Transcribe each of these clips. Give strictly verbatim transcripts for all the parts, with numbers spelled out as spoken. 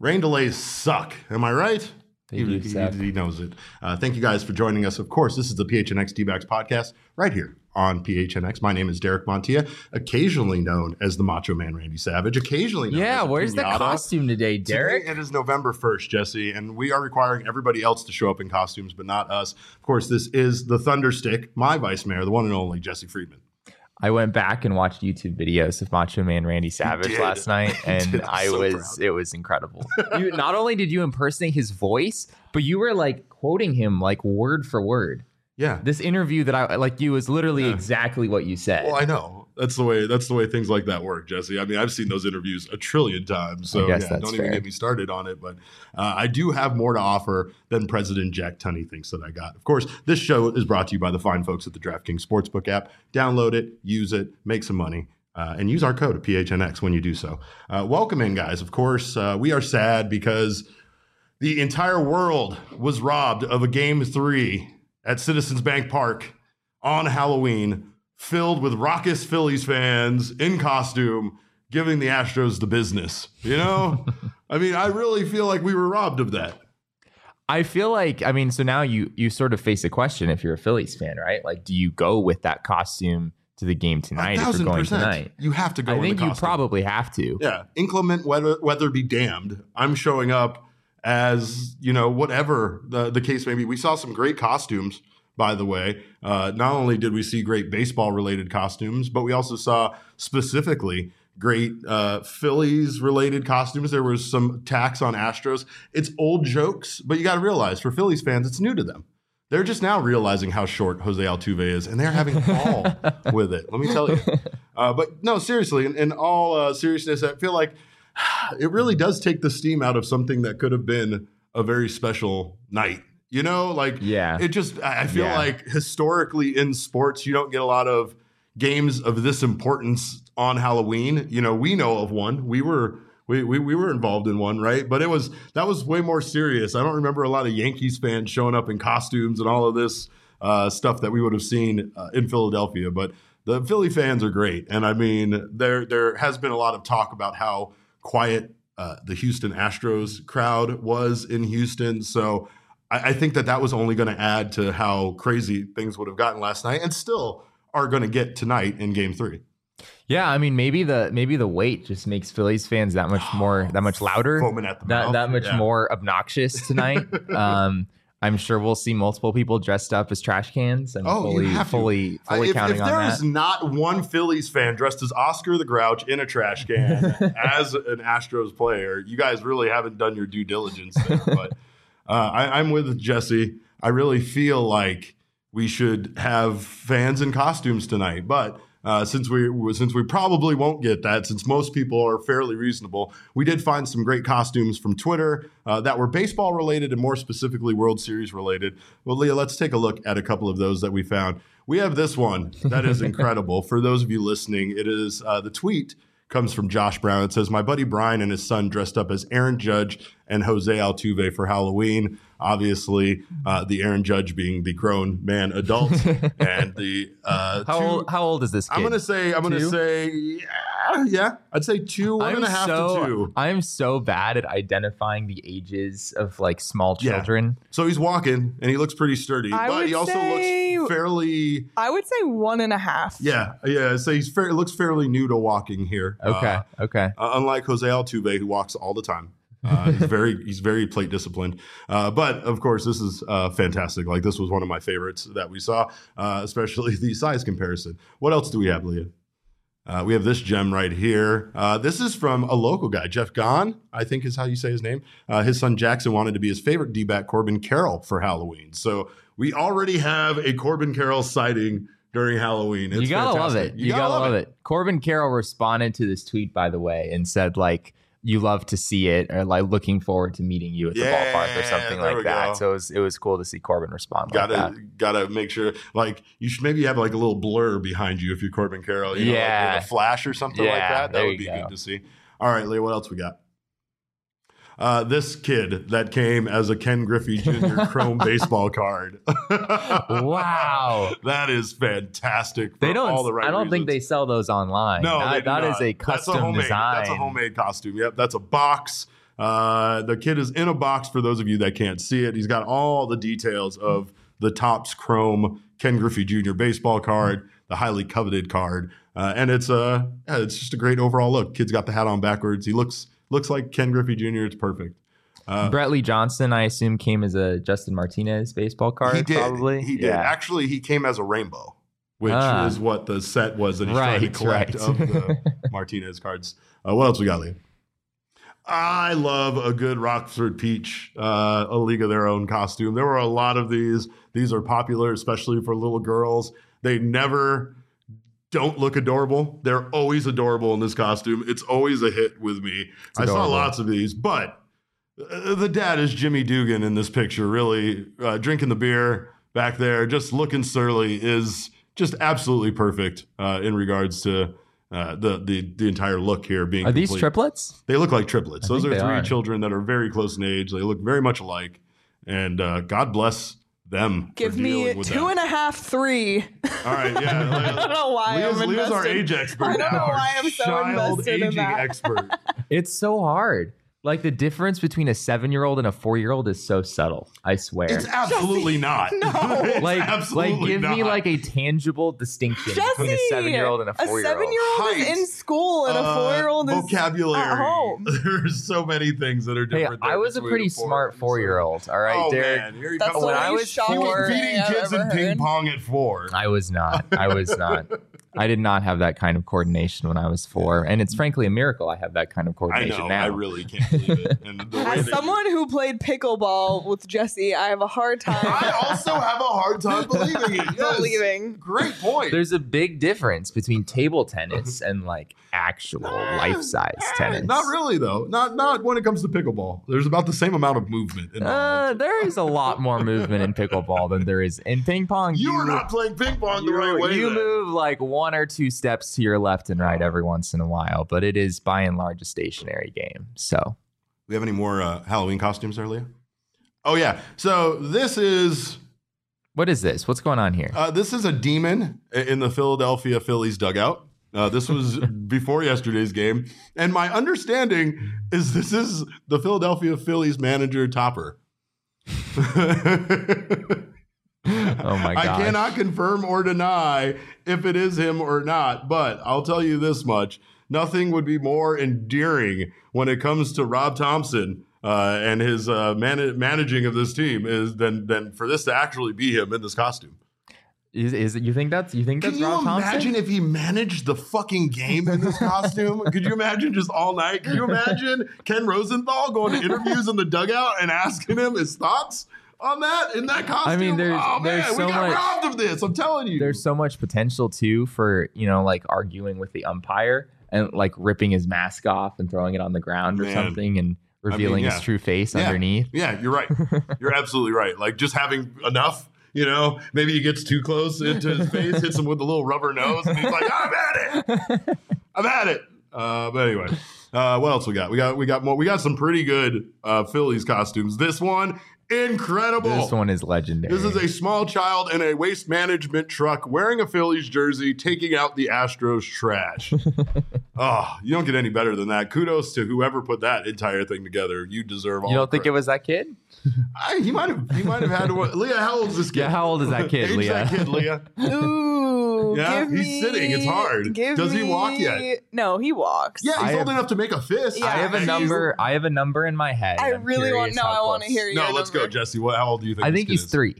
Rain delays suck. Am I right? They He, do he, suck. he knows it. Uh, thank you guys for joining us. Of course, this is the P H N X D-backs podcast right here on P H N X. My name is Derek Montilla, occasionally known as the Macho Man Randy Savage, occasionally known Yeah, as where's the Pinata. costume today, Derek? Today it is November first, Jesse, and we are requiring everybody else to show up in costumes, but not us. Of course, this is the Thunderstick, my vice mayor, the one and only Jesse Friedman. I went back and watched YouTube videos of Macho Man Randy Savage did. last night, and did. I'm I so was proud. it was incredible. You not only did you impersonate his voice, but you were like quoting him like word for word. Yeah. This interview that I like you was literally Yeah. exactly what you said. Well, I know. That's the way that's the way things like that work, Jesse. I mean, I've seen those interviews a trillion times. So I guess yeah, that's don't even fair. get me started on it. But uh, I do have more to offer than President Jack Tunney thinks that I got. Of course, this show is brought to you by the fine folks at the DraftKings Sportsbook app. Download it, use it, make some money. Uh, and use our code P H N X when you do so. Uh, welcome in, guys. Of course, uh, we are sad because the entire world was robbed of a game three at Citizens Bank Park on Halloween, filled with raucous Phillies fans in costume, giving the Astros the business. You know, I mean, I really feel like we were robbed of that. I feel like, I mean, so now you you sort of face a question if you're a Phillies fan, right? Like, do you go with that costume to the game tonight if you're going tonight? You have to go. I in think the you costume. probably have to. Yeah, inclement weather, weather be damned. I'm showing up as, you know, whatever the, the case may be. We saw some great costumes, by the way. Uh, not only did we see great baseball-related costumes, but we also saw specifically great uh, Phillies-related costumes. There was some attacks on Astros. It's old jokes, but you got to realize, for Phillies fans, it's new to them. They're just now realizing how short Jose Altuve is, and they're having ball with it. Let me tell you. Uh, but no, seriously, in, in all uh, seriousness, I feel like it really does take the steam out of something that could have been a very special night. You know, like, Yeah. it just, I I feel Yeah. like historically in sports, you don't get a lot of games of this importance on Halloween. You know, we know of one. We were we, we we were involved in one, right? But it was that was way more serious. I don't remember a lot of Yankees fans showing up in costumes and all of this uh, stuff that we would have seen uh, in Philadelphia. But the Philly fans are great, and I mean, there there has been a lot of talk about how quiet uh, the Houston Astros crowd was in Houston. So I, I think that that was only going to add to how crazy things would have gotten last night, and still are going to get tonight in Game Three. Yeah, I mean, maybe the maybe the weight just makes Phillies fans that much more, that much louder, Foaming at the that mouth. that much Yeah. more obnoxious tonight. um, I'm sure we'll see multiple people dressed up as trash cans. I'm Oh, fully, you have to. fully, Uh, fully if, counting if on there that. is not one Phillies fan dressed as Oscar the Grouch in a trash can as an Astros player, you guys really haven't done your due diligence there. But uh, I, I'm with Jesse. I really feel like we should have fans in costumes tonight, but uh, since we since we probably won't get that, since most people are fairly reasonable, we did find some great costumes from Twitter uh, that were baseball related and more specifically World Series related. Well, Leah, let's take a look at a couple of those that we found. We have this one that is incredible. For those of you listening, it is uh, the tweet comes from Josh Brown. It says, "My buddy Brian and his son dressed up as Aaron Judge and Jose Altuve for Halloween." Obviously, uh, the Aaron Judge being the grown man adult, and the uh, how two, old? How old is this kid? I'm gonna say, I'm gonna Two? say, yeah, yeah, I'd say two, one I'm and a half so, to two. I'm so bad at identifying the ages of like small Yeah. children. So he's walking, and he looks pretty sturdy, I but would he also say- looks fairly. I would say one and a half. Yeah, yeah. So he's fair, looks fairly new to walking here. Okay, Uh, okay. Uh, unlike Jose Altuve, who walks all the time. Uh, he's very he's very plate disciplined. Uh, but of course, this is uh, fantastic. Like, this was one of my favorites that we saw, uh, especially the size comparison. What else do we have, Leah? Uh, we have this gem right here. Uh, this is from a local guy, Jeff Gahn, I think is how you say his name. Uh, his son Jackson wanted to be his favorite D-back, Corbin Carroll, for Halloween. So we already have a Corbin Carroll sighting during Halloween. It's you gotta fantastic. love it. You, gotta, love it. Corbin Carroll responded to this tweet, by the way, and said like, "You love to see it," or like, "Looking forward to meeting you at the Yeah, ballpark," or something there we like that. go. So it was it was cool to see Corbin respond like Gotta that. gotta make sure, like, you should maybe have like a little blur behind you if you're Corbin Carroll, you know, Yeah. like with a flash or something like Yeah, that. That there would you be go. good to see. All right, Leah, what else we got? Uh, this kid that came as a Ken Griffey Junior Chrome baseball card. Wow. That is fantastic. For They don't. All the right I don't think they reasons. sell those online. No, that, they do that not. is a That's custom homemade, design. That's a homemade costume. Yep, that's a box Uh, the kid is in a box for those of you that can't see it. He's got all the details of the Topps Chrome Ken Griffey Junior baseball card, the highly coveted card. Uh, and it's uh, yeah, it's just a great overall look. Kid's got the hat on backwards. He looks looks like Ken Griffey Junior It's perfect. Uh, Brett Lee Johnson, I assume, came as a Justin Martinez baseball card. He did. Probably. He did. Yeah. Actually, he came as a rainbow, which Ah. is what the set was that he's Right, trying to collect right. of the Martinez cards. Uh, what else we got, Liam? I love a good Rockford Peach, uh, a League of Their Own costume. There were a lot of these. These are popular, especially for little girls. They never don't look adorable. They're always adorable in this costume. It's always a hit with me. I saw lots of these, but uh, the dad is Jimmy Dugan in this picture, really uh, drinking the beer back there, just looking surly, is just absolutely perfect uh, in regards to uh, the, the the entire look here being Are these complete. triplets? They look like triplets. I Those are think three they are. children that are very close in age. They look very much alike, and uh, God bless them. Give for me dealing with two that. and a half, three. All right, yeah. I don't know why Leah's, I'm Leah's our invested. age expert I don't now. know why I'm so Child invested in aging that. expert. It's so hard. Like the difference between a seven-year-old and a four-year-old is so subtle. I swear. It's absolutely not. No. It's like, absolutely like, give not. me like a tangible distinction between a Jesse, seven-year-old and a A four-year-old. seven-year-old is Height, in school and a uh, four-year-old is vocabulary. at home. There's so many things that are Hey, different. I there was a between pretty four smart and four-year-old. All right, oh, Derek. man. Here he That's comes. when the I least was shocking four- thing beating I've kids ever in ping heard. pong at four. I was not. I was not. I did not have that kind of coordination when I was four, and it's frankly a miracle I have that kind of I coordination know. now. I really can't believe it. And the way As that someone who played pickleball with Jesse, I have a hard time I also have a hard time believing it. Yes. believing. Great point. There's a big difference between table tennis and like actual life-size tennis. Not really, though. Not not when it comes to pickleball. There's about the same amount of movement Uh, involved. there is a lot more movement in pickleball than there is in ping pong. you are not playing ping pong the you, right way. you then. move like one or two steps to your left and right every once in a while, but it is by and large a stationary game. So We have any more uh, Halloween costumes there, Leah? Oh yeah. So this is what is this? What's going on here? uh, this is a demon in the Philadelphia Phillies dugout. Uh, this was before yesterday's game, and my understanding is this is the Philadelphia Phillies manager Topper. Oh my I gosh. cannot confirm or deny if it is him or not, but I'll tell you this much. Nothing would be more endearing when it comes to Rob Thompson uh, and his uh, man- managing of this team is than than for this to actually be him in this costume. Is, is it, you think that's you think that's Can you Rob Thompson? imagine if he managed the fucking game in this costume? Could you imagine just all night? Can you imagine Ken Rosenthal going to interviews in the dugout and asking him his thoughts on that in that costume? I mean, there's- oh man, there's we so got much- robbed of this. I'm telling you. There's so much potential too for, you know, like arguing with the umpire and like ripping his mask off and throwing it on the ground or Man. something and revealing yeah. his true face Yeah. underneath. Yeah, you're right. You're absolutely right. Like just having enough, you know, maybe he gets too close into his face, hits him with a little rubber nose, and he's like, I'm at it. I'm at it. Uh, but anyway, uh, what else we got? We got we got more. We got some pretty good uh, Phillies costumes. This one, incredible. This one is legendary. This is a small child in a waste management truck wearing a Phillies jersey, taking out the Astros trash. Oh, you don't get any better than that. Kudos to whoever put that entire thing together. You deserve all You the don't think it credit. was that kid? I, he might have. He might have had. To, Leah, how old is this kid? Yeah, how old is that kid, Age Leah? that kid, Leah. Ooh, Yeah, give he's me- sitting. It's hard. give Does he walk me- yet? No, he walks. Yeah, I he's old have- enough to make a fist. Yeah, I have a he's- number. I have a number in my head. I I'm really want. curious No, how I want to close. hear you. No, let's go, Jesse. What? How old do you think? I this think kid he's is? three.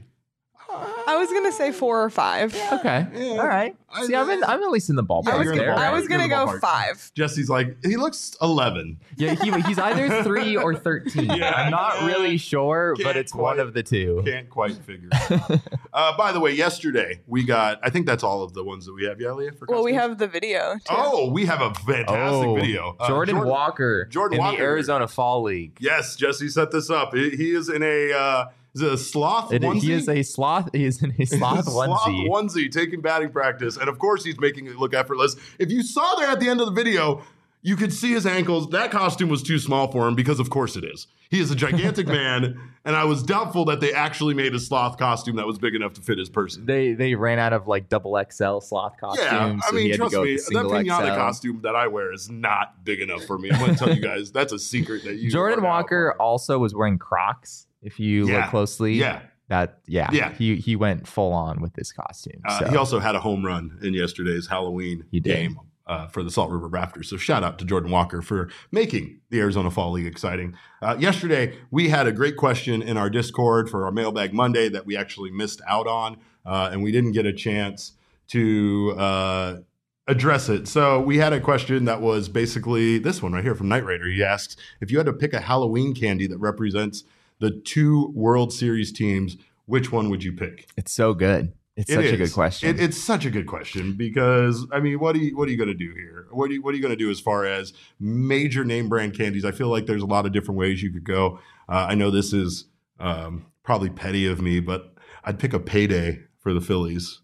I was gonna say four or five. Okay. Yeah. All right. I- See, I'm in, I'm at least in the ballpark Yeah, I was, you're in the there. I ballpark. was You're gonna in the go ballpark. five. Jesse's like he looks eleven. Yeah, he, he's either three or thirteen. Yeah. I'm not really sure, Can't but it's one quite- of the two. Can't quite figure. it out. uh, by the way, yesterday we got. I think that's all of the ones that we have. Yeah, Leah. For Well, we costumes? have the video. Too. Oh, we have a fantastic Oh, video. Uh, Jordan, Walker Jordan in Walker. the Arizona Fall League. Yes, Jesse set this up. He, he is in a. Uh, is it a sloth It- onesie? he is a sloth. He is in a sloth Sloth onesie. onesie taking batting practice, and of course he's making it look effortless. If you saw there at the end of the video, you could see his ankles. That costume was too small for him because, of course, it is. He is a gigantic man, And I was doubtful that they actually made a sloth costume that was big enough to fit his person. They they ran out of like double X L sloth costumes. Yeah, I so mean, he had trust to go me, with the that single pinata X L. costume that I wear is not big enough for me. I'm going to tell you guys, that's a secret that you. Jordan are now Walker part of. also was wearing Crocs. If you Yeah. look closely, Yeah. that yeah, Yeah. he he went full on with this costume. Uh, so. He also had a home run in yesterday's Halloween He did. game uh, for the Salt River Raptors. So shout out to Jordan Walker for making the Arizona Fall League exciting. Uh, yesterday, we had a great question in our Discord for our Mailbag Monday that we actually missed out on, uh, and we didn't get a chance to uh, address it. So we had a question that was basically this one right here from Night Raider. He asks, if you had to pick a Halloween candy that represents the two World Series teams, which one would you pick? It's so good. It's It such a is. good question. It, it's such a good question because I mean, what are you what are you going to do here? What are you what are you going to do as far as major name brand candies? I feel like there's a lot of different ways you could go. Uh, I know this is um, probably petty of me, but I'd pick a Payday for the Phillies,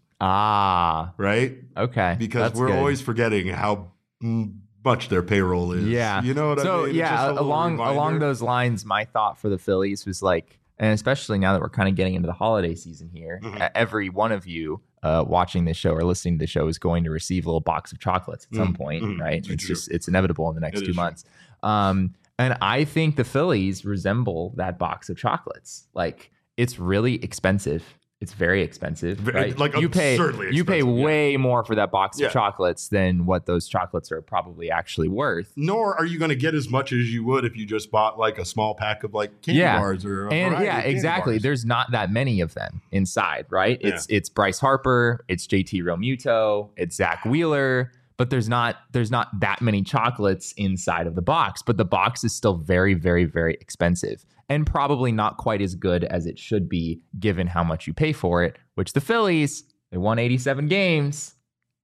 ah, right? okay. Because That's we're good. always forgetting how mm, much their payroll is. Yeah. you know what so I mean? It's just a yeah, little along reminder. along those lines, my thought for the Phillies was like, and especially now that we're kind of getting into the holiday season here, Mhm. uh, every one of you uh, watching this show or listening to the show is going to receive a little box of chocolates at some Mhm. point, Mhm. right? It's It's true. just it's inevitable in the next It two is true. months. Um, and I think the Phillies resemble that box of chocolates. Like it's really expensive. It's very expensive, Ve- right? like you pay absurdly you pay expensive, yeah. way more for that box Yeah. of chocolates than what those chocolates are probably actually worth. Nor are you going to get as much as you would if you just bought like a small pack of like candy Yeah. bars or a And variety yeah, of candy exactly. bars. There's not that many of them inside, right? It's it's Bryce Harper, it's J T Realmuto, it's Zach Wheeler, but there's not there's not that many chocolates inside of the box. But the box is still very, very, very expensive and probably not quite as good as it should be given how much you pay for it, which the Phillies, they won eighty-seven games.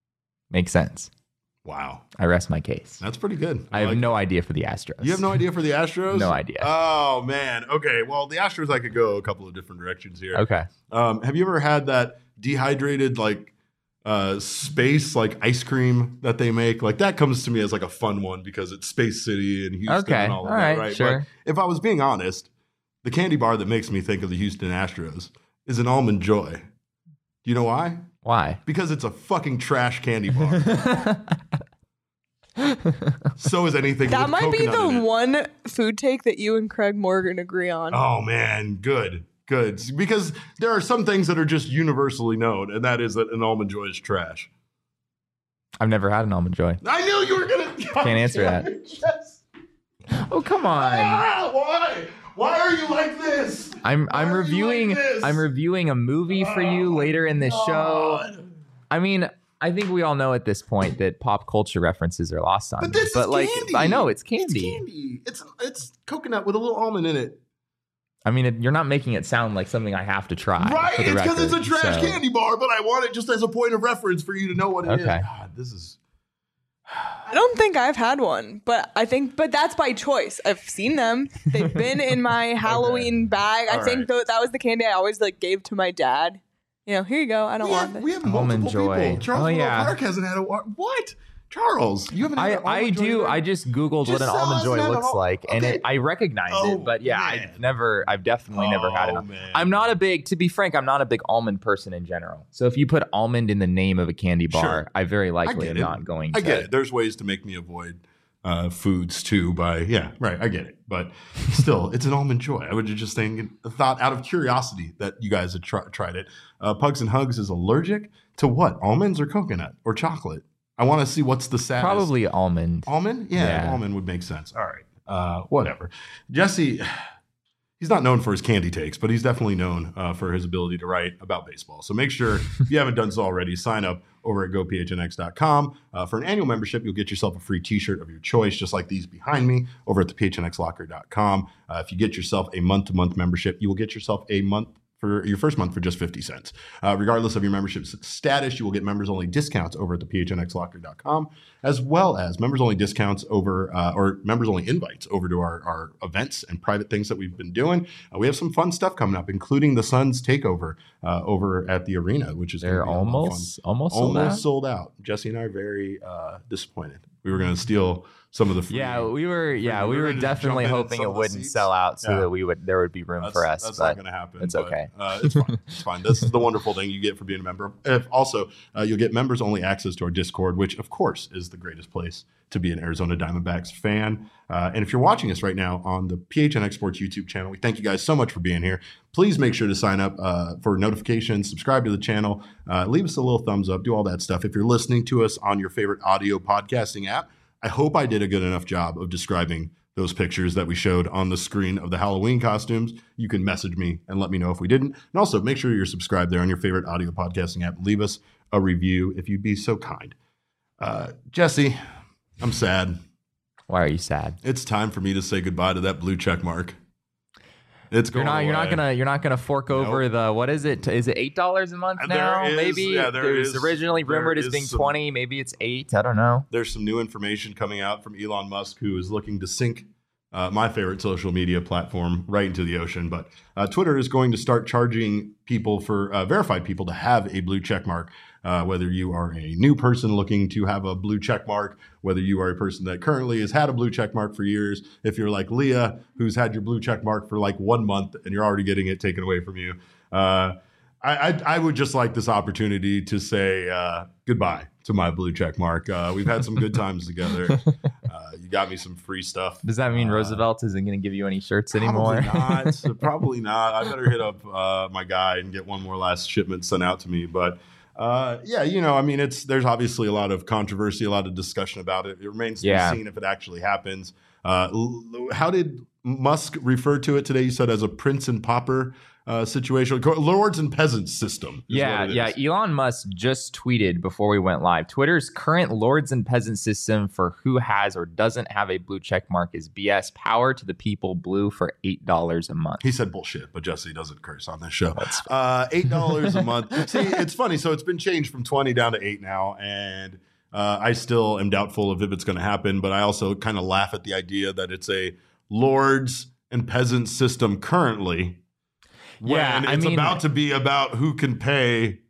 Makes sense. Wow, I rest my case. that's pretty good. I have like no idea for the Astros. You have no idea for the Astros? No idea. Oh, man. Okay. Well, the Astros, I could go a couple of different directions here. Okay. Um, have you ever had that dehydrated, like, uh, space, like, ice cream that they make? Like, that comes to me as, like, a fun one because it's Space City and Houston Okay. and all of All that, right. right? Sure. But if I was being honest, the candy bar that makes me think of the Houston Astros is an Almond Joy. Do you know why? Why? Because it's a fucking trash candy bar. So is anything That with might be coconut in the it. one food take that you and Craig Morgan agree on. Oh man, good, good. Because there are some things that are just universally known, and that is that an Almond Joy is trash. I've never had an Almond Joy. I knew you were gonna. Can't answer that. Yes. Oh, come on. Ah, why? Why are you like this? I'm I'm Why are you reviewing like this? I'm reviewing a movie for you Oh, later in this show. God. I mean, I think we all know at this point that pop culture references are lost on But me. this but is like candy. I know it's candy. It's candy. It's it's coconut with a little almond in it. I mean, it, you're not making it sound like something I have to try. Right? For the It's because it's a record, trash so- candy bar, but I want it just as a point of reference for you to know what it is. Okay. God, this is. I don't think I've had one, but I think, but that's by choice. I've seen them. They've been in my Halloween bag. I All think right. tho- that was the candy I always like gave to my dad. You know, here you go. I don't We want have, this. we have Almond multiple Joy. people. Charles Oh, Willow yeah. Clark hasn't had a what? Charles, you haven't had I, an I Almond Joy do. yet? I just googled Just what an tell almond us joy now, looks oh, like, and okay. it, I recognize Oh, it. But yeah, man. I've never, I've definitely never had Oh, it. man. I'm not a big, to be frank, I'm not a big almond person in general. So if you put almond in the name of a candy bar, Sure. I very likely get am it. not going to. I get it. There's ways to make me avoid uh, foods too. By yeah, right. I get it. But still, it's an Almond Joy. I would just think, thought out of curiosity that you guys had tr- tried it. Uh, Pugs and Hugs is allergic to what? Almonds or coconut or chocolate? I want to see what's the saddest. Probably almond. Almond? Yeah, Yeah. almond would make sense. All right. Uh, whatever. Jesse, he's not known for his candy takes, but he's definitely known uh, for his ability to write about baseball. So make sure, if you haven't done so already, sign up over at go p h n x dot com. Uh, for an annual membership, you'll get yourself a free t-shirt of your choice, just like these behind me, over at the p h n x locker dot com. Uh, if you get yourself a month-to-month membership, you will get yourself a month for your first month for just fifty cents. Uh, regardless of your membership s- status, you will get members-only discounts over at the p h n x locker dot com, as well as members-only discounts over, uh, or members-only invites over to our, our events and private things that we've been doing. Uh, we have some fun stuff coming up, including the Suns takeover uh, over at the arena, which is gonna They're be a lot of fun. almost, almost, sold almost out. sold out. Jesse and I are very uh, disappointed We were going to steal some of the free. Yeah, we were. Yeah, we we were were gonna just definitely jump in in hoping some it of the wouldn't seats. sell out, so Yeah. that we would there would be room That's, for us. that's but not going to happen. it's but, okay. Uh, it's fine. It's fine. This is the wonderful thing you get for being a member. If also, uh, you'll get members only access to our Discord, which of course is the greatest place to be an Arizona Diamondbacks fan. Uh, and if you're watching us right now on the P H N X Sports YouTube channel, we thank you guys so much for being here. Please make sure to sign up uh, for notifications, subscribe to the channel, uh, leave us a little thumbs up, do all that stuff. If you're listening to us on your favorite audio podcasting app, I hope I did a good enough job of describing those pictures that we showed on the screen of the Halloween costumes. You can message me and let me know if we didn't. And also make sure you're subscribed there on your favorite audio podcasting app. Leave us a review if you'd be so kind. Uh, Jesse, I'm sad. Why are you sad? It's time for me to say goodbye to that blue check mark. It's You're going not. You're not away. gonna. You're not gonna fork over the. What is it? Is it eight dollars a month There now? is- Maybe. yeah, there it was is- originally there rumored as is being some- twenty. Maybe it's eight. I don't know. There's some new information coming out from Elon Musk, who is looking to sink uh, my favorite social media platform right into the ocean. But uh, Twitter is going to start charging people for uh, verified people to have a blue check mark. Uh, whether you are a new person looking to have a blue check mark, whether you are a person that currently has had a blue check mark for years, if you're like Leah, who's had your blue check mark for like one month and you're already getting it taken away from you. Uh, I, I, I would just like this opportunity to say uh, goodbye to my blue check mark. Uh, we've had some good times together. Uh, you got me some free stuff. Does that mean Uh, Roosevelt isn't going to give you any shirts anymore? Probably not. Probably not. I better hit up uh, my guy and get one more last shipment sent out to me. But uh, yeah, you know, I mean, it's there's obviously a lot of controversy, a lot of discussion about it. It remains to Yeah. be seen if it actually happens. Uh, l- how did Musk refer to it today? You said as a prince and pauper uh, situation, lords and peasants system. is Yeah, what it yeah. is. Elon Musk just tweeted before we went live. Twitter's current lords and peasants system for who has or doesn't have a blue check mark is B S. Power to the people, blue for eight dollars a month. He said bullshit, but Jesse doesn't curse on this show. Uh, eight dollars a month. See, it's funny. So it's been changed from twenty down to eight now, and uh, I still am doubtful of if it's going to happen. But I also kind of laugh at the idea that it's a lords and peasants system currently. Yeah, when I it's mean- about to be about who can pay.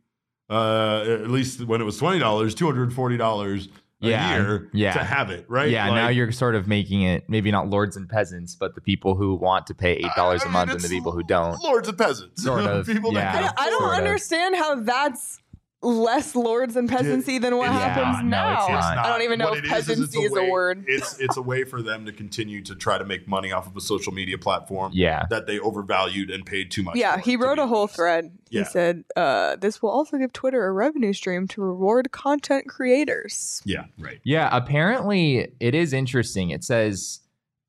Uh, at least when it was twenty dollars, two hundred forty dollars a Yeah, year yeah. to have it, right? Yeah, Like, now you're sort of making it maybe not lords and peasants, but the people who want to pay eight dollars I a mean, month and the it's people who don't. lords and peasants, Sort of, people yeah. that I can don't, I don't Sort of. understand how that's less lords and peasancy than what It's happens not. No, now. it's not. I don't even know What if it is, is it's peasancy is a, way- word. It's it's a way for them to continue to try to make money off of a social media platform Yeah. that they overvalued and paid too much. Yeah, for, he to wrote be a whole honest. thread. Yeah. He said, uh, this will also give Twitter a revenue stream to reward content creators. Yeah, right. Yeah, apparently it is interesting. It says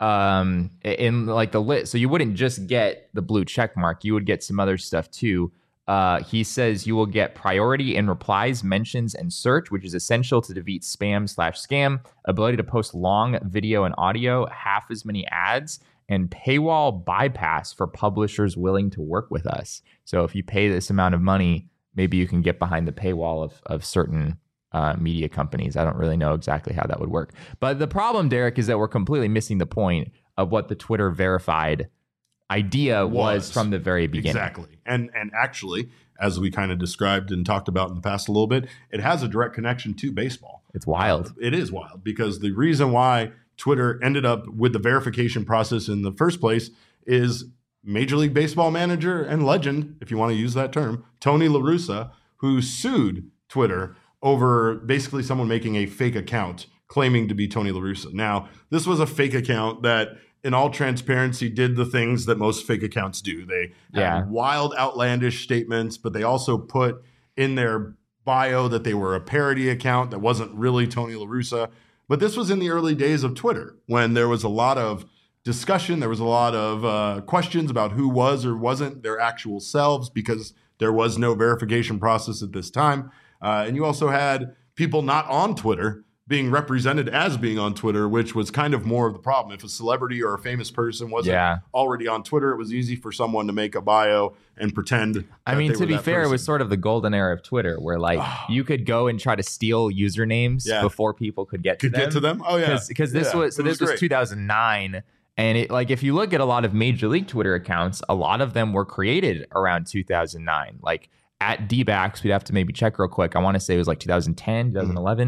um in like the list, so you wouldn't just get the blue check mark, you would get some other stuff too. Uh, he says you will get priority in replies, mentions, and search, which is essential to defeat spam slash scam, ability to post long video and audio, half as many ads, and paywall bypass for publishers willing to work with us. So if you pay this amount of money, maybe you can get behind the paywall of, of certain uh, media companies. I don't really know exactly how that would work. But the problem, Derek, is that we're completely missing the point of what the Twitter verified idea was, Was. from the very beginning. Exactly. And and actually, as we kind of described and talked about in the past a little bit, it has a direct connection to baseball. It's wild. It is wild because the reason why Twitter ended up with the verification process in the first place is Major League Baseball manager and legend, if you want to use that term, Tony La Russa, who sued Twitter over basically someone making a fake account claiming to be Tony La Russa. Now, this was a fake account that, in all transparency, did the things that most fake accounts do. They had Yeah. wild, outlandish statements, but they also put in their bio that they were a parody account that wasn't really Tony La Russa. But this was in the early days of Twitter when there was a lot of discussion. There was a lot of uh, questions about who was or wasn't their actual selves because there was no verification process at this time. Uh, and you also had people not on Twitter being represented as being on Twitter, which was kind of more of the problem. If a celebrity or a famous person wasn't Yeah. already on Twitter, it was easy for someone to make a bio and pretend. I that mean, they to were be that fair, it was person. sort of the golden era of Twitter where like you could go and try to steal usernames Yeah. before people could get to could them. get to them. Oh yeah, Because this Yeah, was so it this was great. two thousand nine. And it like if you look at a lot of major league Twitter accounts, a lot of them were created around two thousand nine. Like at D-backs, we'd have to maybe check real quick. I want to say it was like two thousand ten, twenty eleven.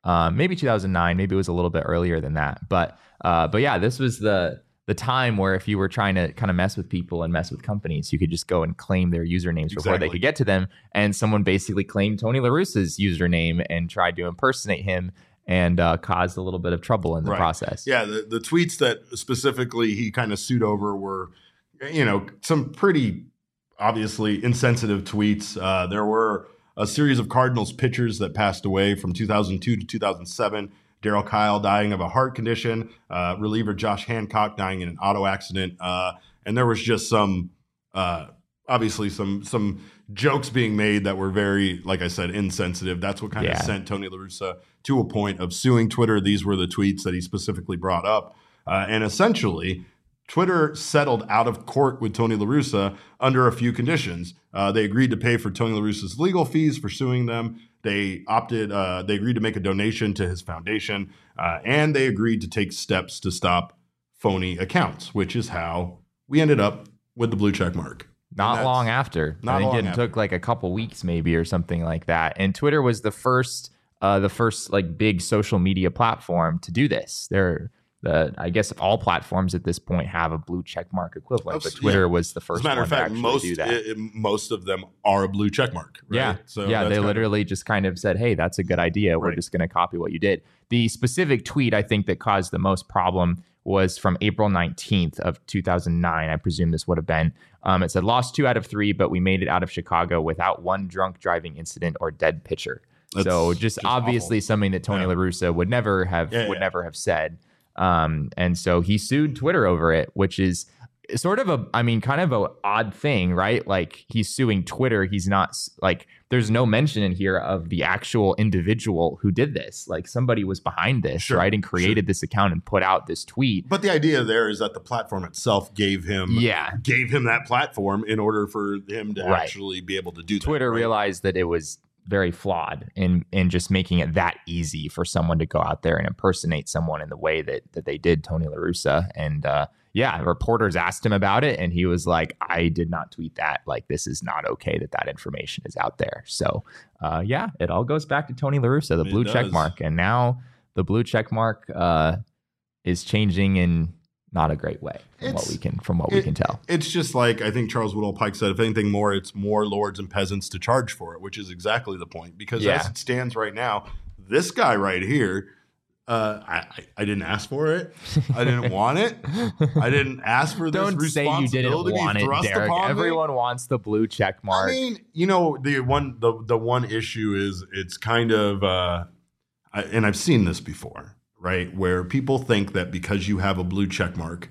Um, maybe two thousand nine, maybe it was a little bit earlier than that. But uh, but yeah, this was the the time where if you were trying to kind of mess with people and mess with companies, you could just go and claim their usernames exactly. before they could get to them. And someone basically claimed Tony La Russa's username and tried to impersonate him and uh, caused a little bit of trouble in the right. process. Yeah, the, the tweets that specifically he kind of sued over were, you know, some pretty obviously insensitive tweets. Uh, there were a series of Cardinals pitchers that passed away from two thousand two to two thousand seven. Darryl Kyle dying of a heart condition, uh, reliever Josh Hancock dying in an auto accident. Uh, and there was just some, uh, obviously some some jokes being made that were very, like I said, insensitive. That's what kind yeah. of sent Tony La Russa to a point of suing Twitter. These were the tweets that he specifically brought up. Uh, and essentially, Twitter settled out of court with Tony La Russa under a few conditions. Uh, they agreed to pay for Tony La Russa's legal fees for suing them. They opted, uh, they agreed to make a donation to his foundation, uh, and they agreed to take steps to stop phony accounts, which is how we ended up with the blue check mark. Not long after. Not I think long it after. took like a couple weeks maybe or something like that. And Twitter was the first, uh, the first like big social media platform to do this. They're The, I guess all platforms at this point have a blue check mark equivalent, but Twitter yeah. was the first As a matter one of fact, to actually most, do that. It, most of them are a blue check mark. Right? Yeah, so yeah. They kind literally of... just kind of said, "Hey, that's a good idea. We're right. just going to copy what you did." The specific tweet I think that caused the most problem was from April nineteenth of two thousand nine. I presume this would have been. Um, it said, "Lost two out of three, but we made it out of Chicago without one drunk driving incident or dead pitcher." That's so just, just obviously awful. Something that Tony yeah. La Russa would never have yeah, would yeah. never have said. Um, and so he sued Twitter over it, which is sort of a, I mean, kind of a odd thing, right? Like he's suing Twitter. He's not like, there's no mention in here of the actual individual who did this. Like somebody was behind this, sure, right? And created sure. this account and put out this tweet. But the idea there is that the platform itself gave him, yeah. gave him that platform in order for him to right. actually be able to do that. Twitter right? realized that it was very flawed in in just making it that easy for someone to go out there and impersonate someone in the way that that they did Tony La Russa. And uh, yeah, reporters asked him about it, and he was like, "I did not tweet that. Like, this is not okay that that information is out there." So uh, yeah, it all goes back to Tony La Russa, the it blue does. check mark, and now the blue check mark uh, is changing in not a great way from It's- what we can from what it- we can tell. It's just like I think Charles Woodall Pike said, if anything more, it's more lords and peasants to charge for it, which is exactly the point. Because Yeah. as it stands right now, this guy right here, uh, I, I, I didn't ask for it. I didn't want it. I didn't ask for this Don't say you didn't responsibility want it, thrust Derek. upon me. Everyone wants the blue check mark. I mean, you know, the one the the one issue is it's kind of, uh, I, and I've seen this before, right? Where people think that because you have a blue check mark,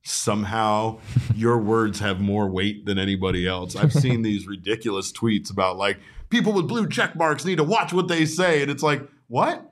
somehow your words have more weight than anybody else. I've seen these ridiculous tweets about like people with blue check marks need to watch what they say, and it's like, what?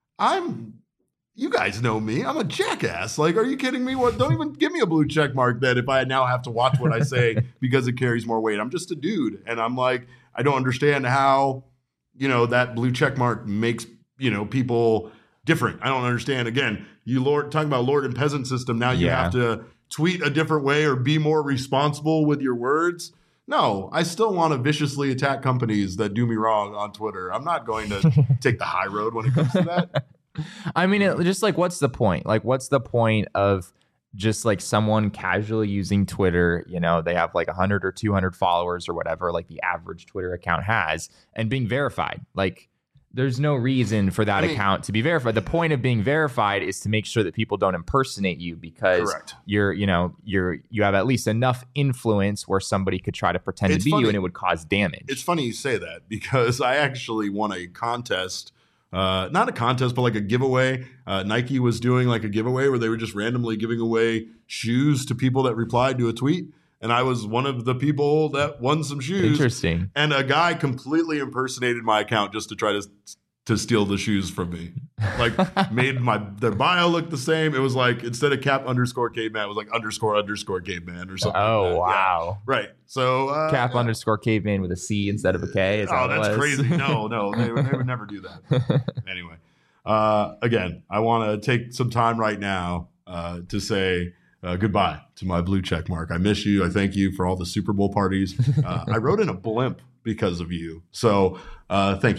I'm. You guys know me. I'm a jackass. Like, are you kidding me? What? Don't even give me a blue check mark then if I now have to watch what I say because it carries more weight. I'm just a dude. And I'm like, I don't understand how, you know, that blue check mark makes, you know, people different. I don't understand. Again, you lord talking about lord and peasant system. Now you Yeah. have to tweet a different way or be more responsible with your words. No, I still want to viciously attack companies that do me wrong on Twitter. I'm not going to take the high road when it comes to that. I mean, it, just like, what's the point? Like, what's the point of just like someone casually using Twitter? You know, they have like one hundred or two hundred followers or whatever, like the average Twitter account has, and being verified. Like, there's no reason for that I mean, account to be verified. The point of being verified is to make sure that people don't impersonate you because Correct. you're, you know, you're, you have at least enough influence where somebody could try to pretend It's to be funny. you and it would cause damage. It's funny you say that because I actually won a contest. Uh, not a contest, but like a giveaway. Uh, Nike was doing like a giveaway where they were just randomly giving away shoes to people that replied to a tweet. And I was one of the people that won some shoes. Interesting. And a guy completely impersonated my account just to try to to steal the shoes from me. Like made my their bio look the same. It was like instead of cap underscore caveman, it was like underscore underscore caveman or something. Oh, like that. wow. Yeah. Right. So uh, Cap underscore caveman with a C instead of a K. Is oh, that what that's it was? crazy. No, no, they, would- they would never do that. Anyway, uh, again, I want to take some time right now uh, to say uh, goodbye to my blue check mark. I miss you. I thank you for all the Super Bowl parties. Uh, I rode in a blimp because of you. So uh, thank you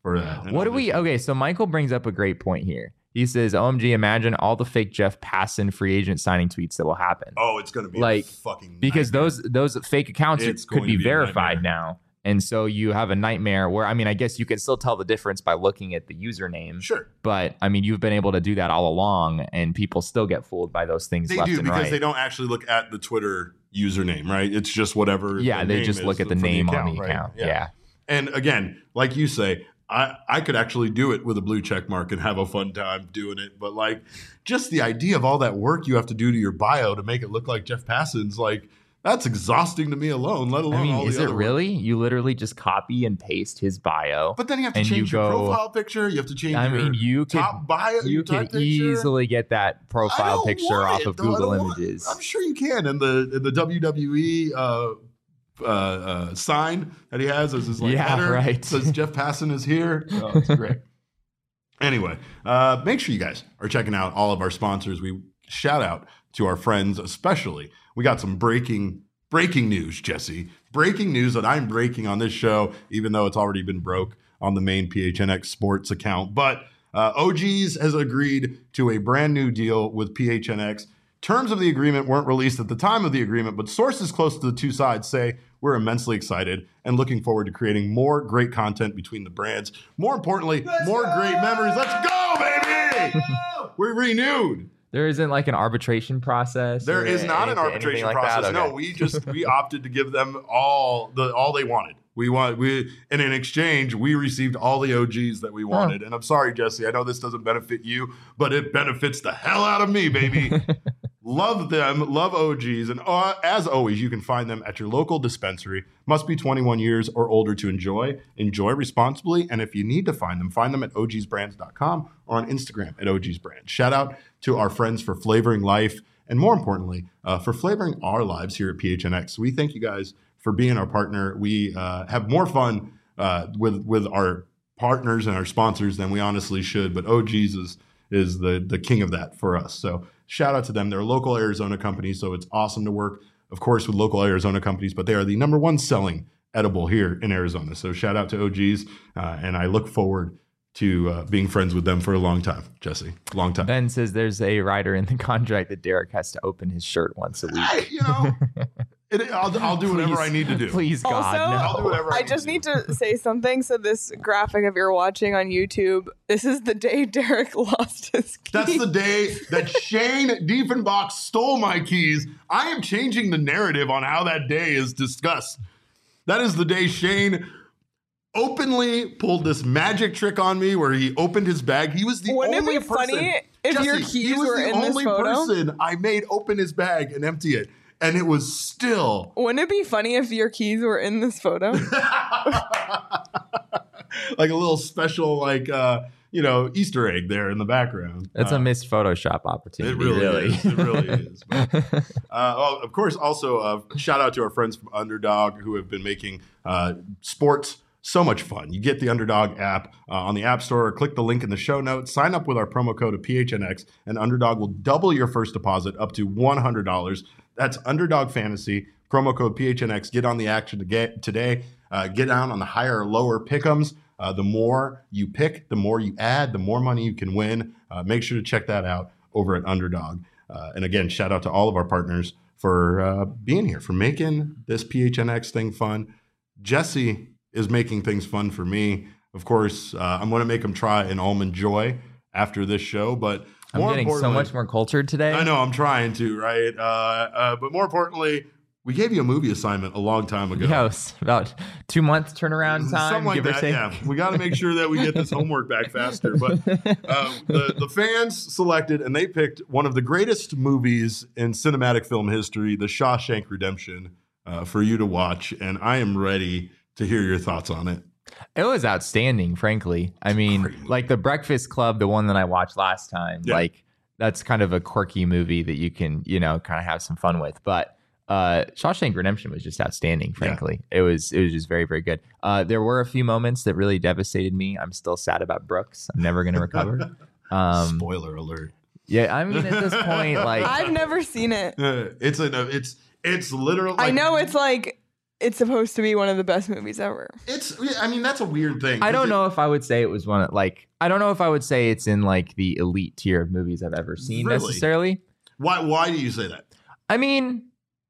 for that. And What do we? Okay, so Michael brings up a great point here. He says, O M G, imagine all the fake Jeff Passan free agent signing tweets that will happen. Oh, it's going to be like a fucking because nightmare. those those fake accounts It's could going be to be a verified nightmare. now. And so you have a nightmare where, I mean, I guess you can still tell the difference by looking at the username. Sure. But, I mean, you've been able to do that all along, and people still get fooled by those things They left do and because right. they don't actually look at the Twitter username, right? It's just whatever. yeah, the they name just is look at the for name account, on the right? account. Yeah. And again, like you say, I, I could actually do it with a blue check mark and have a fun time doing it. But like just the idea of all that work you have to do to your bio to make it look like Jeff Passan's, like that's exhausting to me alone, let alone I mean, all is the it other work. really? You literally just copy and paste his bio. But then you have to and change you your go- profile picture. You have to change I your mean, you could top bio. you your top could picture. easily get that I profile don't picture want off it, of though. I Google don't want- Images. I'm sure you can. And the and the W W E uh, uh, uh, sign that he has as his like Yeah, header right. says Jeff Passan is here. Oh, it's great. Anyway, uh, make sure you guys are checking out all of our sponsors. We shout out to our friends, especially. We got some breaking breaking news, Jesse. Breaking news that I'm breaking on this show, even though it's already been broke on the main P H N X Sports account. But uh, O G's has agreed to a brand new deal with P H N X. Terms of the agreement weren't released at the time of the agreement, but sources close to the two sides say we're immensely excited and looking forward to creating more great content between the brands. More importantly, Let's more go! great memories. Let's go, baby! We're renewed. There isn't like an arbitration process. There or is not an anything- arbitration anything like process. that? No, Okay. we just we opted to give them all the all they wanted. We want we and in exchange we received all the O Gs that we wanted. And I'm sorry, Jesse, I know this doesn't benefit you, but it benefits the hell out of me, baby. Love them, love O Gs, and uh, as always, you can find them at your local dispensary. Must be twenty-one years or older to enjoy. Enjoy responsibly, and if you need to find them, find them at O Gs brands dot com or on Instagram at O Gs Brands. Shout out to our friends for flavoring life, and more importantly, uh, for flavoring our lives here at P H N X. We thank you guys for being our partner. We uh, have more fun uh, with with our partners and our sponsors than we honestly should, but O Gs is is the the king of that for us. So shout out to them. They're a local Arizona company, so it's awesome to work, of course, with local Arizona companies, but they are the number one selling edible here in Arizona. So shout out to O Gs, uh, and I look forward to uh, being friends with them for a long time, Jesse. Long time. Ben says there's a rider in the contract that Derek has to open his shirt once a week. I, you know, it, I'll, I'll do whatever Please- I need to do. Please, God, Also, no. I'll do whatever I, I need just to need do. to say something. So this graphic, if you're watching on YouTube, this is the day Derek lost his keys. That's the day that Shane Diefenbach stole my keys. I am changing the narrative on how that day is discussed. That is the day Shane openly pulled this magic trick on me where he opened his bag. He was the Wouldn't it only be person. funny if Jesse, your he keys was were the in this only photo? person I made open his bag and empty it. And it was still Wouldn't it be funny if your keys were in this photo? like a little special, like, uh, you know, Easter egg there in the background. That's Uh, a missed Photoshop opportunity. It really, really. is. It really is. But, uh, oh, of course, also uh, shout out to our friends from Underdog who have been making uh, sports so much fun. You get the Underdog app uh, on the App Store, or click the link in the show notes, sign up with our promo code of P H N X, and Underdog will double your first deposit up to one hundred dollars. That's Underdog Fantasy, promo code P H N X. Get on the action to get today. Uh, get down on the higher or lower pick'ems. Uh, the more you pick, the more you add, the more money you can win. Uh, make sure to check that out over at Underdog. Uh, and again, shout out to all of our partners for uh, being here, for making this P H N X thing fun. Jesse is making things fun for me. Of course, uh, I'm going to make him try an Almond Joy after this show, but I'm more getting so importantly- much more cultured today. I know, I'm trying to, right? Uh, uh, but more importantly, we gave you a movie assignment a long time ago. Yeah, it was about two months turnaround time, Something like give or that, take. yeah. We got to make sure that we get this homework back faster. But uh, the, the fans selected, and they picked one of the greatest movies in cinematic film history, The Shawshank Redemption, uh, for you to watch. And I am ready to hear your thoughts on it. It was outstanding, frankly. I mean, Great movie. like The Breakfast Club, the one that I watched last time, Yeah. like that's kind of a quirky movie that you can, you know, kind of have some fun with. But uh, Shawshank Redemption was just outstanding, frankly. It was it was just very, very good. Uh, there were a few moments that really devastated me. I'm still sad about Brooks. I'm never going to recover. Um, Spoiler alert. yeah, I mean, at this point, like, I've never seen it. Uh, it's a, it's it's literally. I know it's like it's supposed to be one of the best movies ever. It's, I mean, that's a weird thing. I don't it, know if I would say it was one of like, I don't know if I would say it's in like the elite tier of movies I've ever seen Really? necessarily. Why, why do you say that? I mean,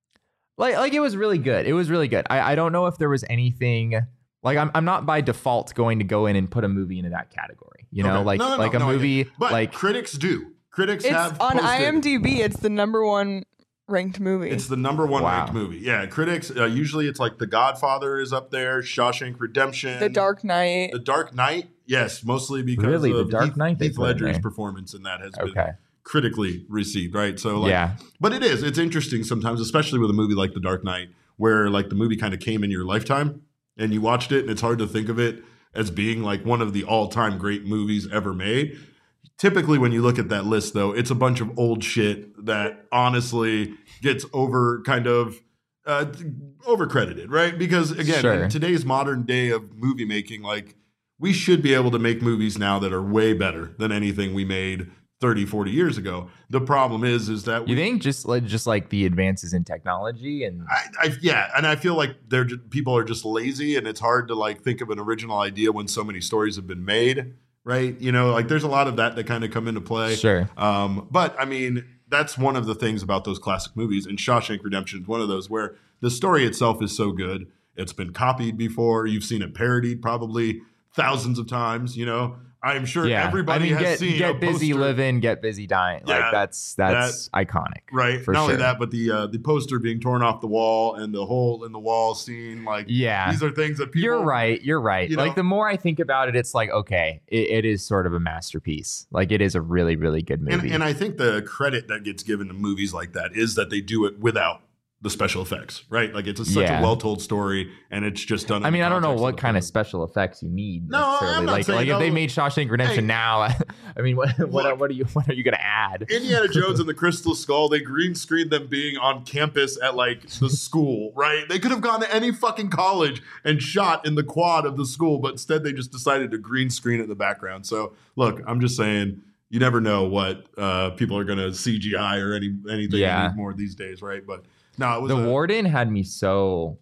like, like it was really good. It was really good. I, I don't know if there was anything like I'm, I'm not by default going to go in and put a movie into that category, you know, Okay. like, No, no, no, like a no, I get movie, it. But like critics do. Critics It's have on posted- IMDb. It's the number one ranked movie. It's the number one Wow. ranked movie. Yeah, critics uh, usually it's like The Godfather is up there, Shawshank Redemption, The Dark Knight. The Dark Knight. Yes, mostly because Really? The of Dark Heath, Knight they Heath put in Ledger's there. performance in that has Okay. been critically received, right? So like, yeah, but it is. It's interesting sometimes, especially with a movie like The Dark Knight, where like the movie kind of came in your lifetime and you watched it, and it's hard to think of it as being like one of the all-time great movies ever made. Typically, when you look at that list, though, it's a bunch of old shit that honestly gets over kind of uh, overcredited, right? Because again, Sure. in today's modern day of movie making, like we should be able to make movies now that are way better than anything we made thirty, forty years ago. The problem is, is that we, you think just like just like the advances in technology and I, I, yeah, and I feel like they're just, people are just lazy, and it's hard to like think of an original idea when so many stories have been made, right? You know, like there's a lot of that that kind of come into play. sure, Um, but I mean, that's one of the things about those classic movies, and Shawshank Redemption is one of those where the story itself is so good. It's been copied before. You've seen it parodied probably thousands of times. You know, I'm sure yeah. everybody I mean, has get seen get a busy poster, living, get busy dying. Yeah, like that's that's iconic, right? for Not sure. only that, but the uh, the poster being torn off the wall and the hole in the wall scene. Like, Yeah. these are things that people. You're right. You're right. you Like know- the more I think about it, it's like okay, it, it is sort of a masterpiece. Like it is a really, really good And, movie. and I think the credit that gets given to movies like that is that they do it without the special effects, right? Like it's a, such Yeah. a well-told story, and it's just done. in I mean, the I don't know context what the kind of film. special effects you need. No, I'm necessarily. not like, saying like if they no. made Shawshank Redemption Hey. now, I mean, what what, Look. what are you what are you gonna add? Indiana Jones and the Crystal Skull, they green screened them being on campus at like the school, right? They could have gone to any fucking college and shot in the quad of the school, but instead they just decided to green screen it in the background. So look, I'm just saying, you never know what uh, people are going to C G I or any anything Yeah. more these days, right? But no, it was The a, warden had me so.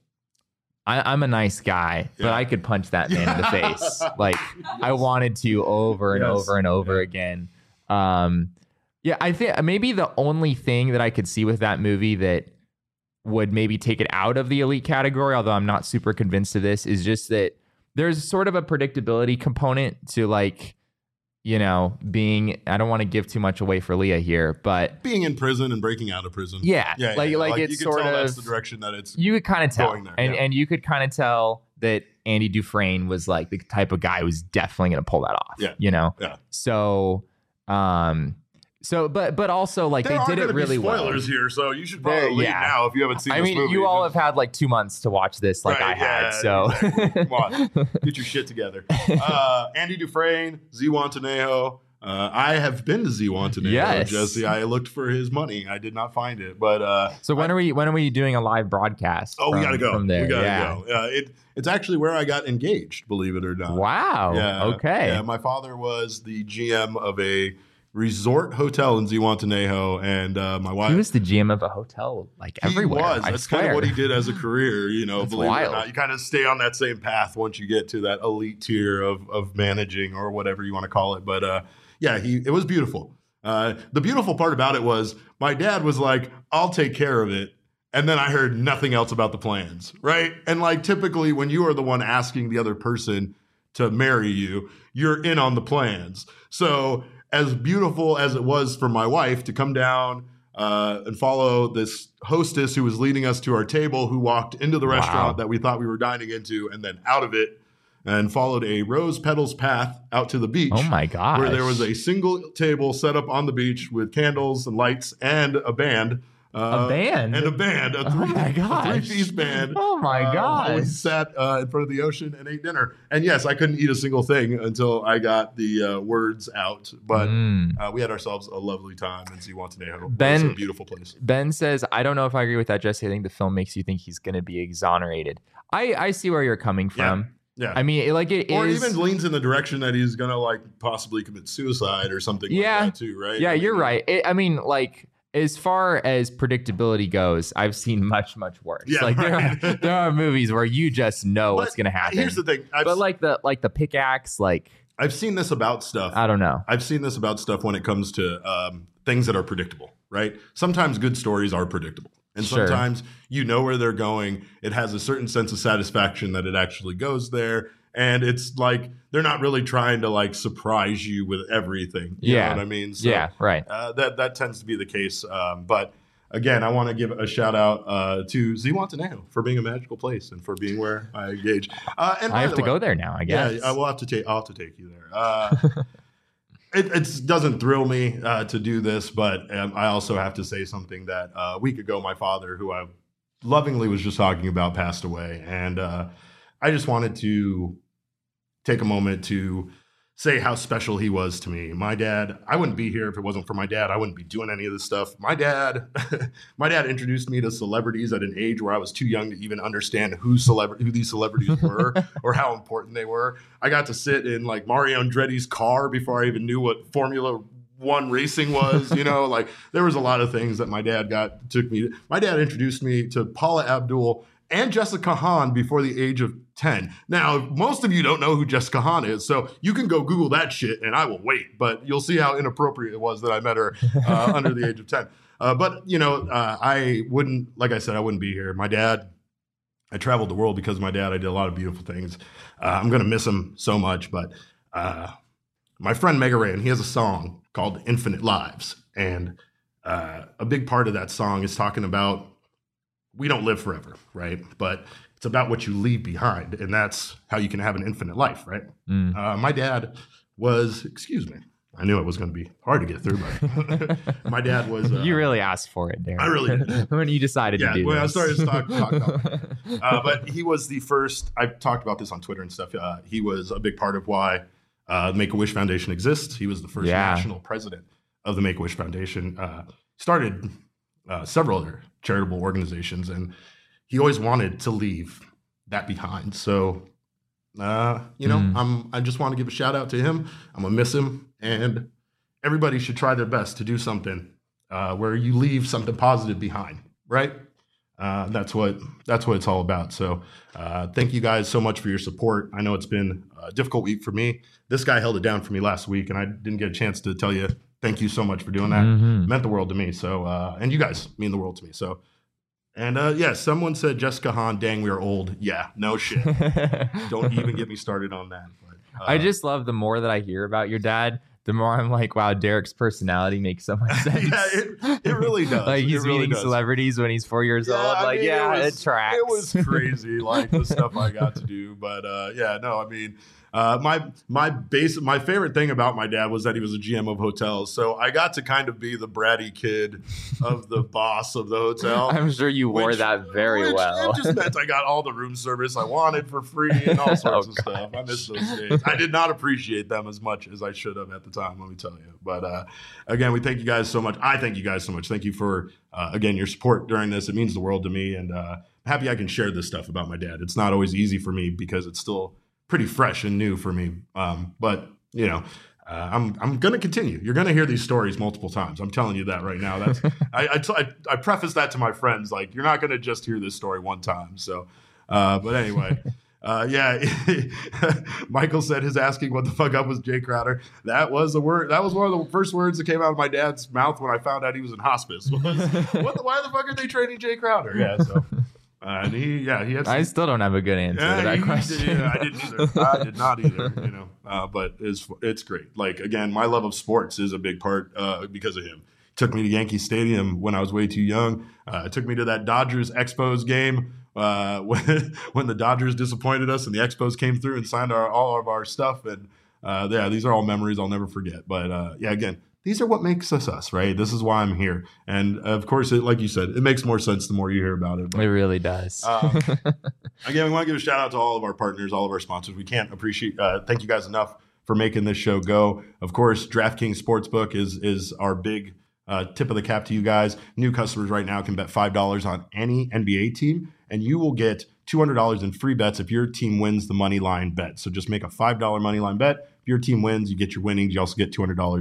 I, I'm a nice guy, but Yeah. I could punch that man in the face. Like I wanted to over and Yes. over and over Yeah. again. Um, yeah, I think maybe the only thing that I could see with that movie that would maybe take it out of the elite category, although I'm not super convinced of this, is just that there's sort of a predictability component to like, you know, being. I don't want to give too much away for Leah here, but being in prison and breaking out of prison. yeah, yeah, like yeah. like, you it's can sort tell of that's the direction that it's. you could kind of tell, going there, and yeah. and you could kind of tell that Andy Dufresne was like the type of guy who was definitely going to pull that off. Yeah. you know. Yeah. So, um, so but but also like There they are did it gonna be really well. spoilers here, so you should There- probably leave yeah. now if you haven't seen. I this mean, movie. you all Just- have had like two months to watch this, like Right, I had. yeah, So, exactly. Come on, get your shit together. Uh, Andy Dufresne, Zihuatanejo. Uh, I have been to Zihuatanejo, Yes. Jesse. I looked for his money. I did not find it, but uh, so when are we when are we doing a live broadcast? oh, we from- gotta go. from there. We gotta yeah. go. Uh, it it's actually where I got engaged. Believe it or not. Wow. Yeah. Okay. Yeah, my father was the G M of a resort hotel in Zihuatanejo, and uh, my wife. He was the G M of a hotel, like He everywhere. was. I That's kind of swear. what he did as a career, you know, That's believe it wild. or not. You kind of stay on that same path once you get to that elite tier of of managing or whatever you want to call it. But uh, yeah, he it was beautiful. Uh, the beautiful part about it was my dad was like, I'll take care of it. And then I heard nothing else about the plans, right? And like typically when you are the one asking the other person to marry you, you're in on the plans. So as beautiful as it was for my wife to come down uh, and follow this hostess who was leading us to our table, who walked into the Wow. restaurant that we thought we were dining into and then out of it and followed a rose petals path out to the beach. Oh my gosh. Where there was a single table set up on the beach with candles and lights and a band. Uh, A band? And a band. A Oh three, my a gosh. three-piece band. Oh my Uh, gosh. while we sat uh, in front of the ocean and ate dinner. And yes, I couldn't eat a single thing until I got the uh, words out. But Mm. uh, we had ourselves a lovely time in Zihuatanejo. Ben- It's a beautiful place. Ben says, I don't know if I agree with that, Jesse. I think the film makes you think he's going to be exonerated. I, I see where you're coming from. Yeah. I mean, it, like it or is. even leans in the direction that he's going to like possibly commit suicide or something Yeah. like that too, right? yeah, I mean, you're right. It, I mean, like, as far as predictability goes, I've seen much, much worse. Yeah, like right. there, are, there are movies where you just know But what's going to happen. Here's the thing. I've, but like the like the pickaxe, like I've seen this about stuff. I don't know. I've seen this about stuff when it comes to um, things that are predictable, right? Sometimes good stories are predictable. And Sure. sometimes you know where they're going. It has a certain sense of satisfaction that it actually goes there. And it's like they're not really trying to like surprise you with everything. You Yeah. know what I mean? So, Yeah, right. Uh, that that tends to be the case. Um, but again, I want to give a shout out uh, to Zihuatanejo for being a magical place and for being where I engage. Uh, and I by have the to way- go there now, I guess. Yeah, I will have to take. I'll have to take you there. Uh, it it's, doesn't thrill me uh, to do this, but um, I also have to say something that uh, a week ago, my father, who I lovingly was just talking about, passed away, and uh, I just wanted to take a moment to say how special he was to me. My dad, I wouldn't be here if it wasn't for my dad. I wouldn't be doing any of this stuff. My dad, my dad introduced me to celebrities at an age where I was too young to even understand who celebra- who these celebrities were or how important they were. I got to sit in like Mario Andretti's car before I even knew what Formula One racing was. You know, like there was a lot of things that my dad got took me. My dad introduced me to Paula Abdul and Jessica Hahn before the age of ten. Now, most of you don't know who Jessica Hahn is, so you can go Google that shit and I will wait, but you'll see how inappropriate it was that I met her uh, under the age of ten. Uh, but, you know, uh, I wouldn't, like I said, I wouldn't be here. My dad, I traveled the world because of my dad. I did a lot of beautiful things. Uh, I'm going to miss him so much, but uh, my friend Mega Ran, he has a song called Infinite Lives. And uh, a big part of that song is talking about we don't live forever, right? But it's about what you leave behind, and that's how you can have an infinite life, right? Mm. Uh, my dad was, excuse me, I knew it was going to be hard to get through, but my dad was. Uh, you really asked for it, Darren. I really did. when you decided yeah, to do when this. I started to talk, talk about it. Uh, but he was the first, I've talked about this on Twitter and stuff. Uh, he was a big part of why uh, the Make-A-Wish Foundation exists. He was the first Yeah. national president of the Make-A-Wish Foundation. Uh, started uh, several other charitable organizations, and he always wanted to leave that behind. So, uh, you know, Mm. I'm, I just want to give a shout out to him. I'm gonna miss him, and everybody should try their best to do something uh, where you leave something positive behind, right? Uh, that's what that's what it's all about. So, uh, thank you guys so much for your support. I know it's been a difficult week for me. This guy held it down for me last week, and I didn't get a chance to tell you thank you so much for doing that. Mhm. It meant the world to me. So, uh, and you guys mean the world to me. So. And uh, yeah, someone said Jessica Hahn, dang, we are old. Yeah, no shit. Don't even get me started on that. But, uh, I just love the more that I hear about your dad, the more I'm like, wow, Derek's personality makes so much sense. yeah, it, it really does. like he's it really meeting does. celebrities when he's four years Yeah, old. I Like, mean, yeah, it, it, was, tracks. It was crazy, like the stuff I got to do. But uh, yeah, no, I mean, uh, my my base, my favorite thing about my dad was that he was a G M of hotels. So I got to kind of be the bratty kid of the boss of the hotel. I'm sure you wore which- that very which well. It just meant I got all the room service I wanted for free and all sorts Oh, of stuff. I miss those days. I did not appreciate them as much as I should have at the time, let me tell you. But uh, again, we thank you guys so much. I thank you guys so much. Thank you for, uh, again, your support during this. It means the world to me. And uh, I'm happy I can share this stuff about my dad. It's not always easy for me because it's still pretty fresh and new for me. Um, but, you know, Uh, I'm I'm gonna continue. You're gonna hear these stories multiple times. I'm telling you that right now. That's I I, t- I I preface that to my friends. Like, you're not gonna just hear this story one time. So, uh, but anyway, uh, yeah. Michael said his asking what the fuck up was Jay Crowder. That was the word. That was one of the first words that came out of my dad's mouth when I found out he was in hospice. Was, what the, why the fuck are they training Jay Crowder? Yeah. So. Uh, and he, yeah, he had. Some, I still don't have a good answer yeah, to that he- question. yeah, I didn't either. I did not either. You know, uh, but it's it's great. Like, again, my love of sports is a big part uh, because of him. Took me to Yankee Stadium when I was way too young. Uh, took me to that Dodgers Expos game uh, when when the Dodgers disappointed us and the Expos came through and signed our all of our stuff. And uh, yeah, these are all memories I'll never forget. But uh, yeah, again. These are what makes us us, right? This is why I'm here. And of course, it, like you said, it makes more sense the more you hear about it. But, It really does. um, again, we want to give a shout out to all of our partners, all of our sponsors. We can't appreciate, uh, thank you guys enough for making this show go. Of course, DraftKings Sportsbook is is our big uh, tip of the cap to you guys. New customers right now can bet five dollars on any N B A team, and you will get two hundred dollars in free bets if your team wins the money line bet. So just make a five dollars money line bet. If your team wins, you get your winnings. You also get two hundred dollars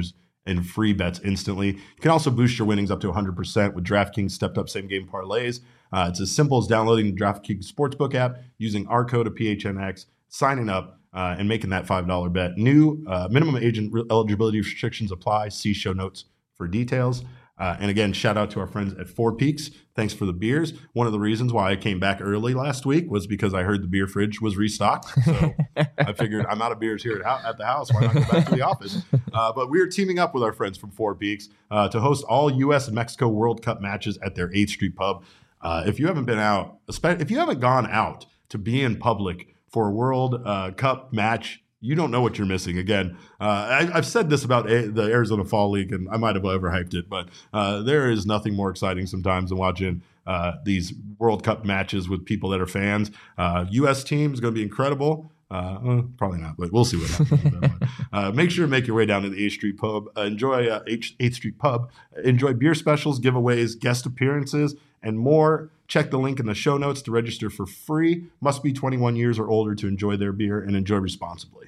and free bets instantly. You can also boost your winnings up to one hundred percent with DraftKings stepped up same game parlays. Uh, it's as simple as downloading the DraftKings Sportsbook app, using our code of P H N X, signing up, uh, and making that five dollar bet. New uh, minimum agent re- eligibility restrictions apply. See show notes for details. Uh, and again, shout out to our friends at Four Peaks. Thanks for the beers. One of the reasons why I came back early last week was because I heard the beer fridge was restocked. So I figured I'm out of beers here at, ho- at the house. Why not go back to the office? Uh, but we're teaming up with our friends from Four Peaks uh, to host all U S and Mexico World Cup matches at their eighth Street Pub. Uh, if you haven't been out, if you haven't gone out to be in public for a World uh, Cup match, you don't know what you're missing. Again, uh, I, I've said this about a, the Arizona Fall League, and I might have overhyped it, but uh, there is nothing more exciting sometimes than watching uh, these World Cup matches with people that are fans. Uh, U S team is going to be incredible. Uh, well, probably not, but we'll see what happens. uh, make sure to make your way down to the eighth Street Pub. Uh, enjoy uh, eighth Street Pub. Enjoy beer specials, giveaways, guest appearances, and more. Check the link in the show notes to register for free. Must be twenty-one years or older to enjoy their beer, and enjoy responsibly.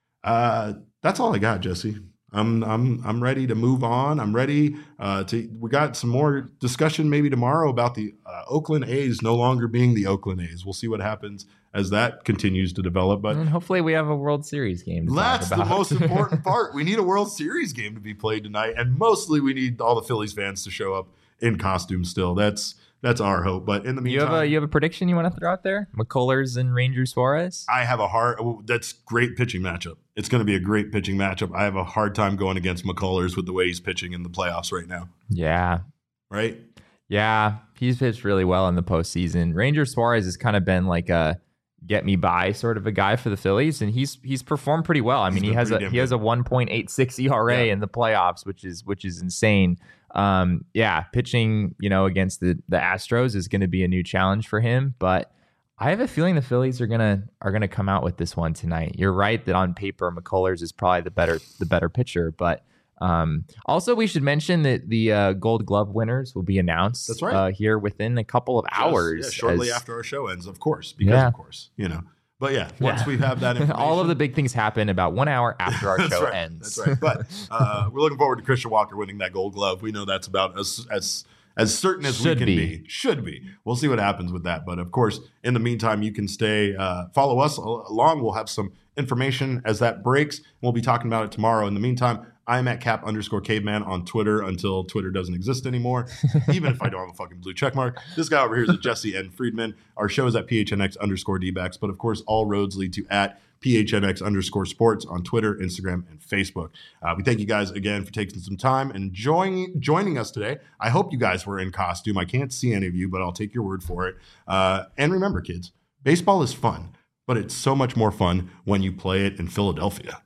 Uh, that's all I got, Jesse. I'm I'm I'm ready to move on. I'm ready uh, to. We got some more discussion maybe tomorrow about the uh, Oakland A's no longer being the Oakland A's. We'll see what happens as that continues to develop. But and hopefully we have a World Series game to that's talk about. The most important part. We need a World Series game to be played tonight, and mostly we need all the Phillies fans to show up in costume. Still, that's. That's our hope. But in the meantime, you have a you have a prediction you want to throw out there? McCullers and Ranger Suarez? I have a hard that's great pitching matchup. It's going to be a great pitching matchup. I have a hard time going against McCullers with the way he's pitching in the playoffs right now. Yeah. Right? Yeah. He's pitched really well in the postseason. Ranger Suarez has kind of been like a get me by sort of a guy for the Phillies, and he's he's performed pretty well. I mean, he has a he has a one point eight six E R A yeah. in the playoffs, which is which is insane. Um, yeah, pitching, you know, against the the Astros is going to be a new challenge for him, but I have a feeling the Phillies are gonna are gonna come out with this one tonight. You're right that on paper McCullers is probably the better the better pitcher, but um, also we should mention that the uh, Gold Glove winners will be announced. That's right. uh, here within a couple of hours, yes, yeah, shortly as, after our show ends, of course, because yeah. of course, you know. But yeah, once yeah. we have that information. All of the big things happen about one hour after our show right. ends. That's right. But uh, we're looking forward to Christian Walker winning that Gold Glove. We know that's about as as as certain as Should we can be. be. Should be. We'll see what happens with that. But of course, in the meantime, you can stay, uh, follow us along. We'll have some information as that breaks. We'll be talking about it tomorrow. In the meantime, I'm at cap underscore caveman on Twitter until Twitter doesn't exist anymore, even if I don't have a fucking blue check mark. This guy over here is at Jesse N. Friedman. Our show is at P H N X underscore D-backs. But of course, all roads lead to at P H N X underscore sports on Twitter, Instagram, and Facebook. Uh, we thank you guys again for taking some time and joining joining us today. I hope you guys were in costume. I can't see any of you, but I'll take your word for it. Uh, and remember, kids, baseball is fun, but it's so much more fun when you play it in Philadelphia.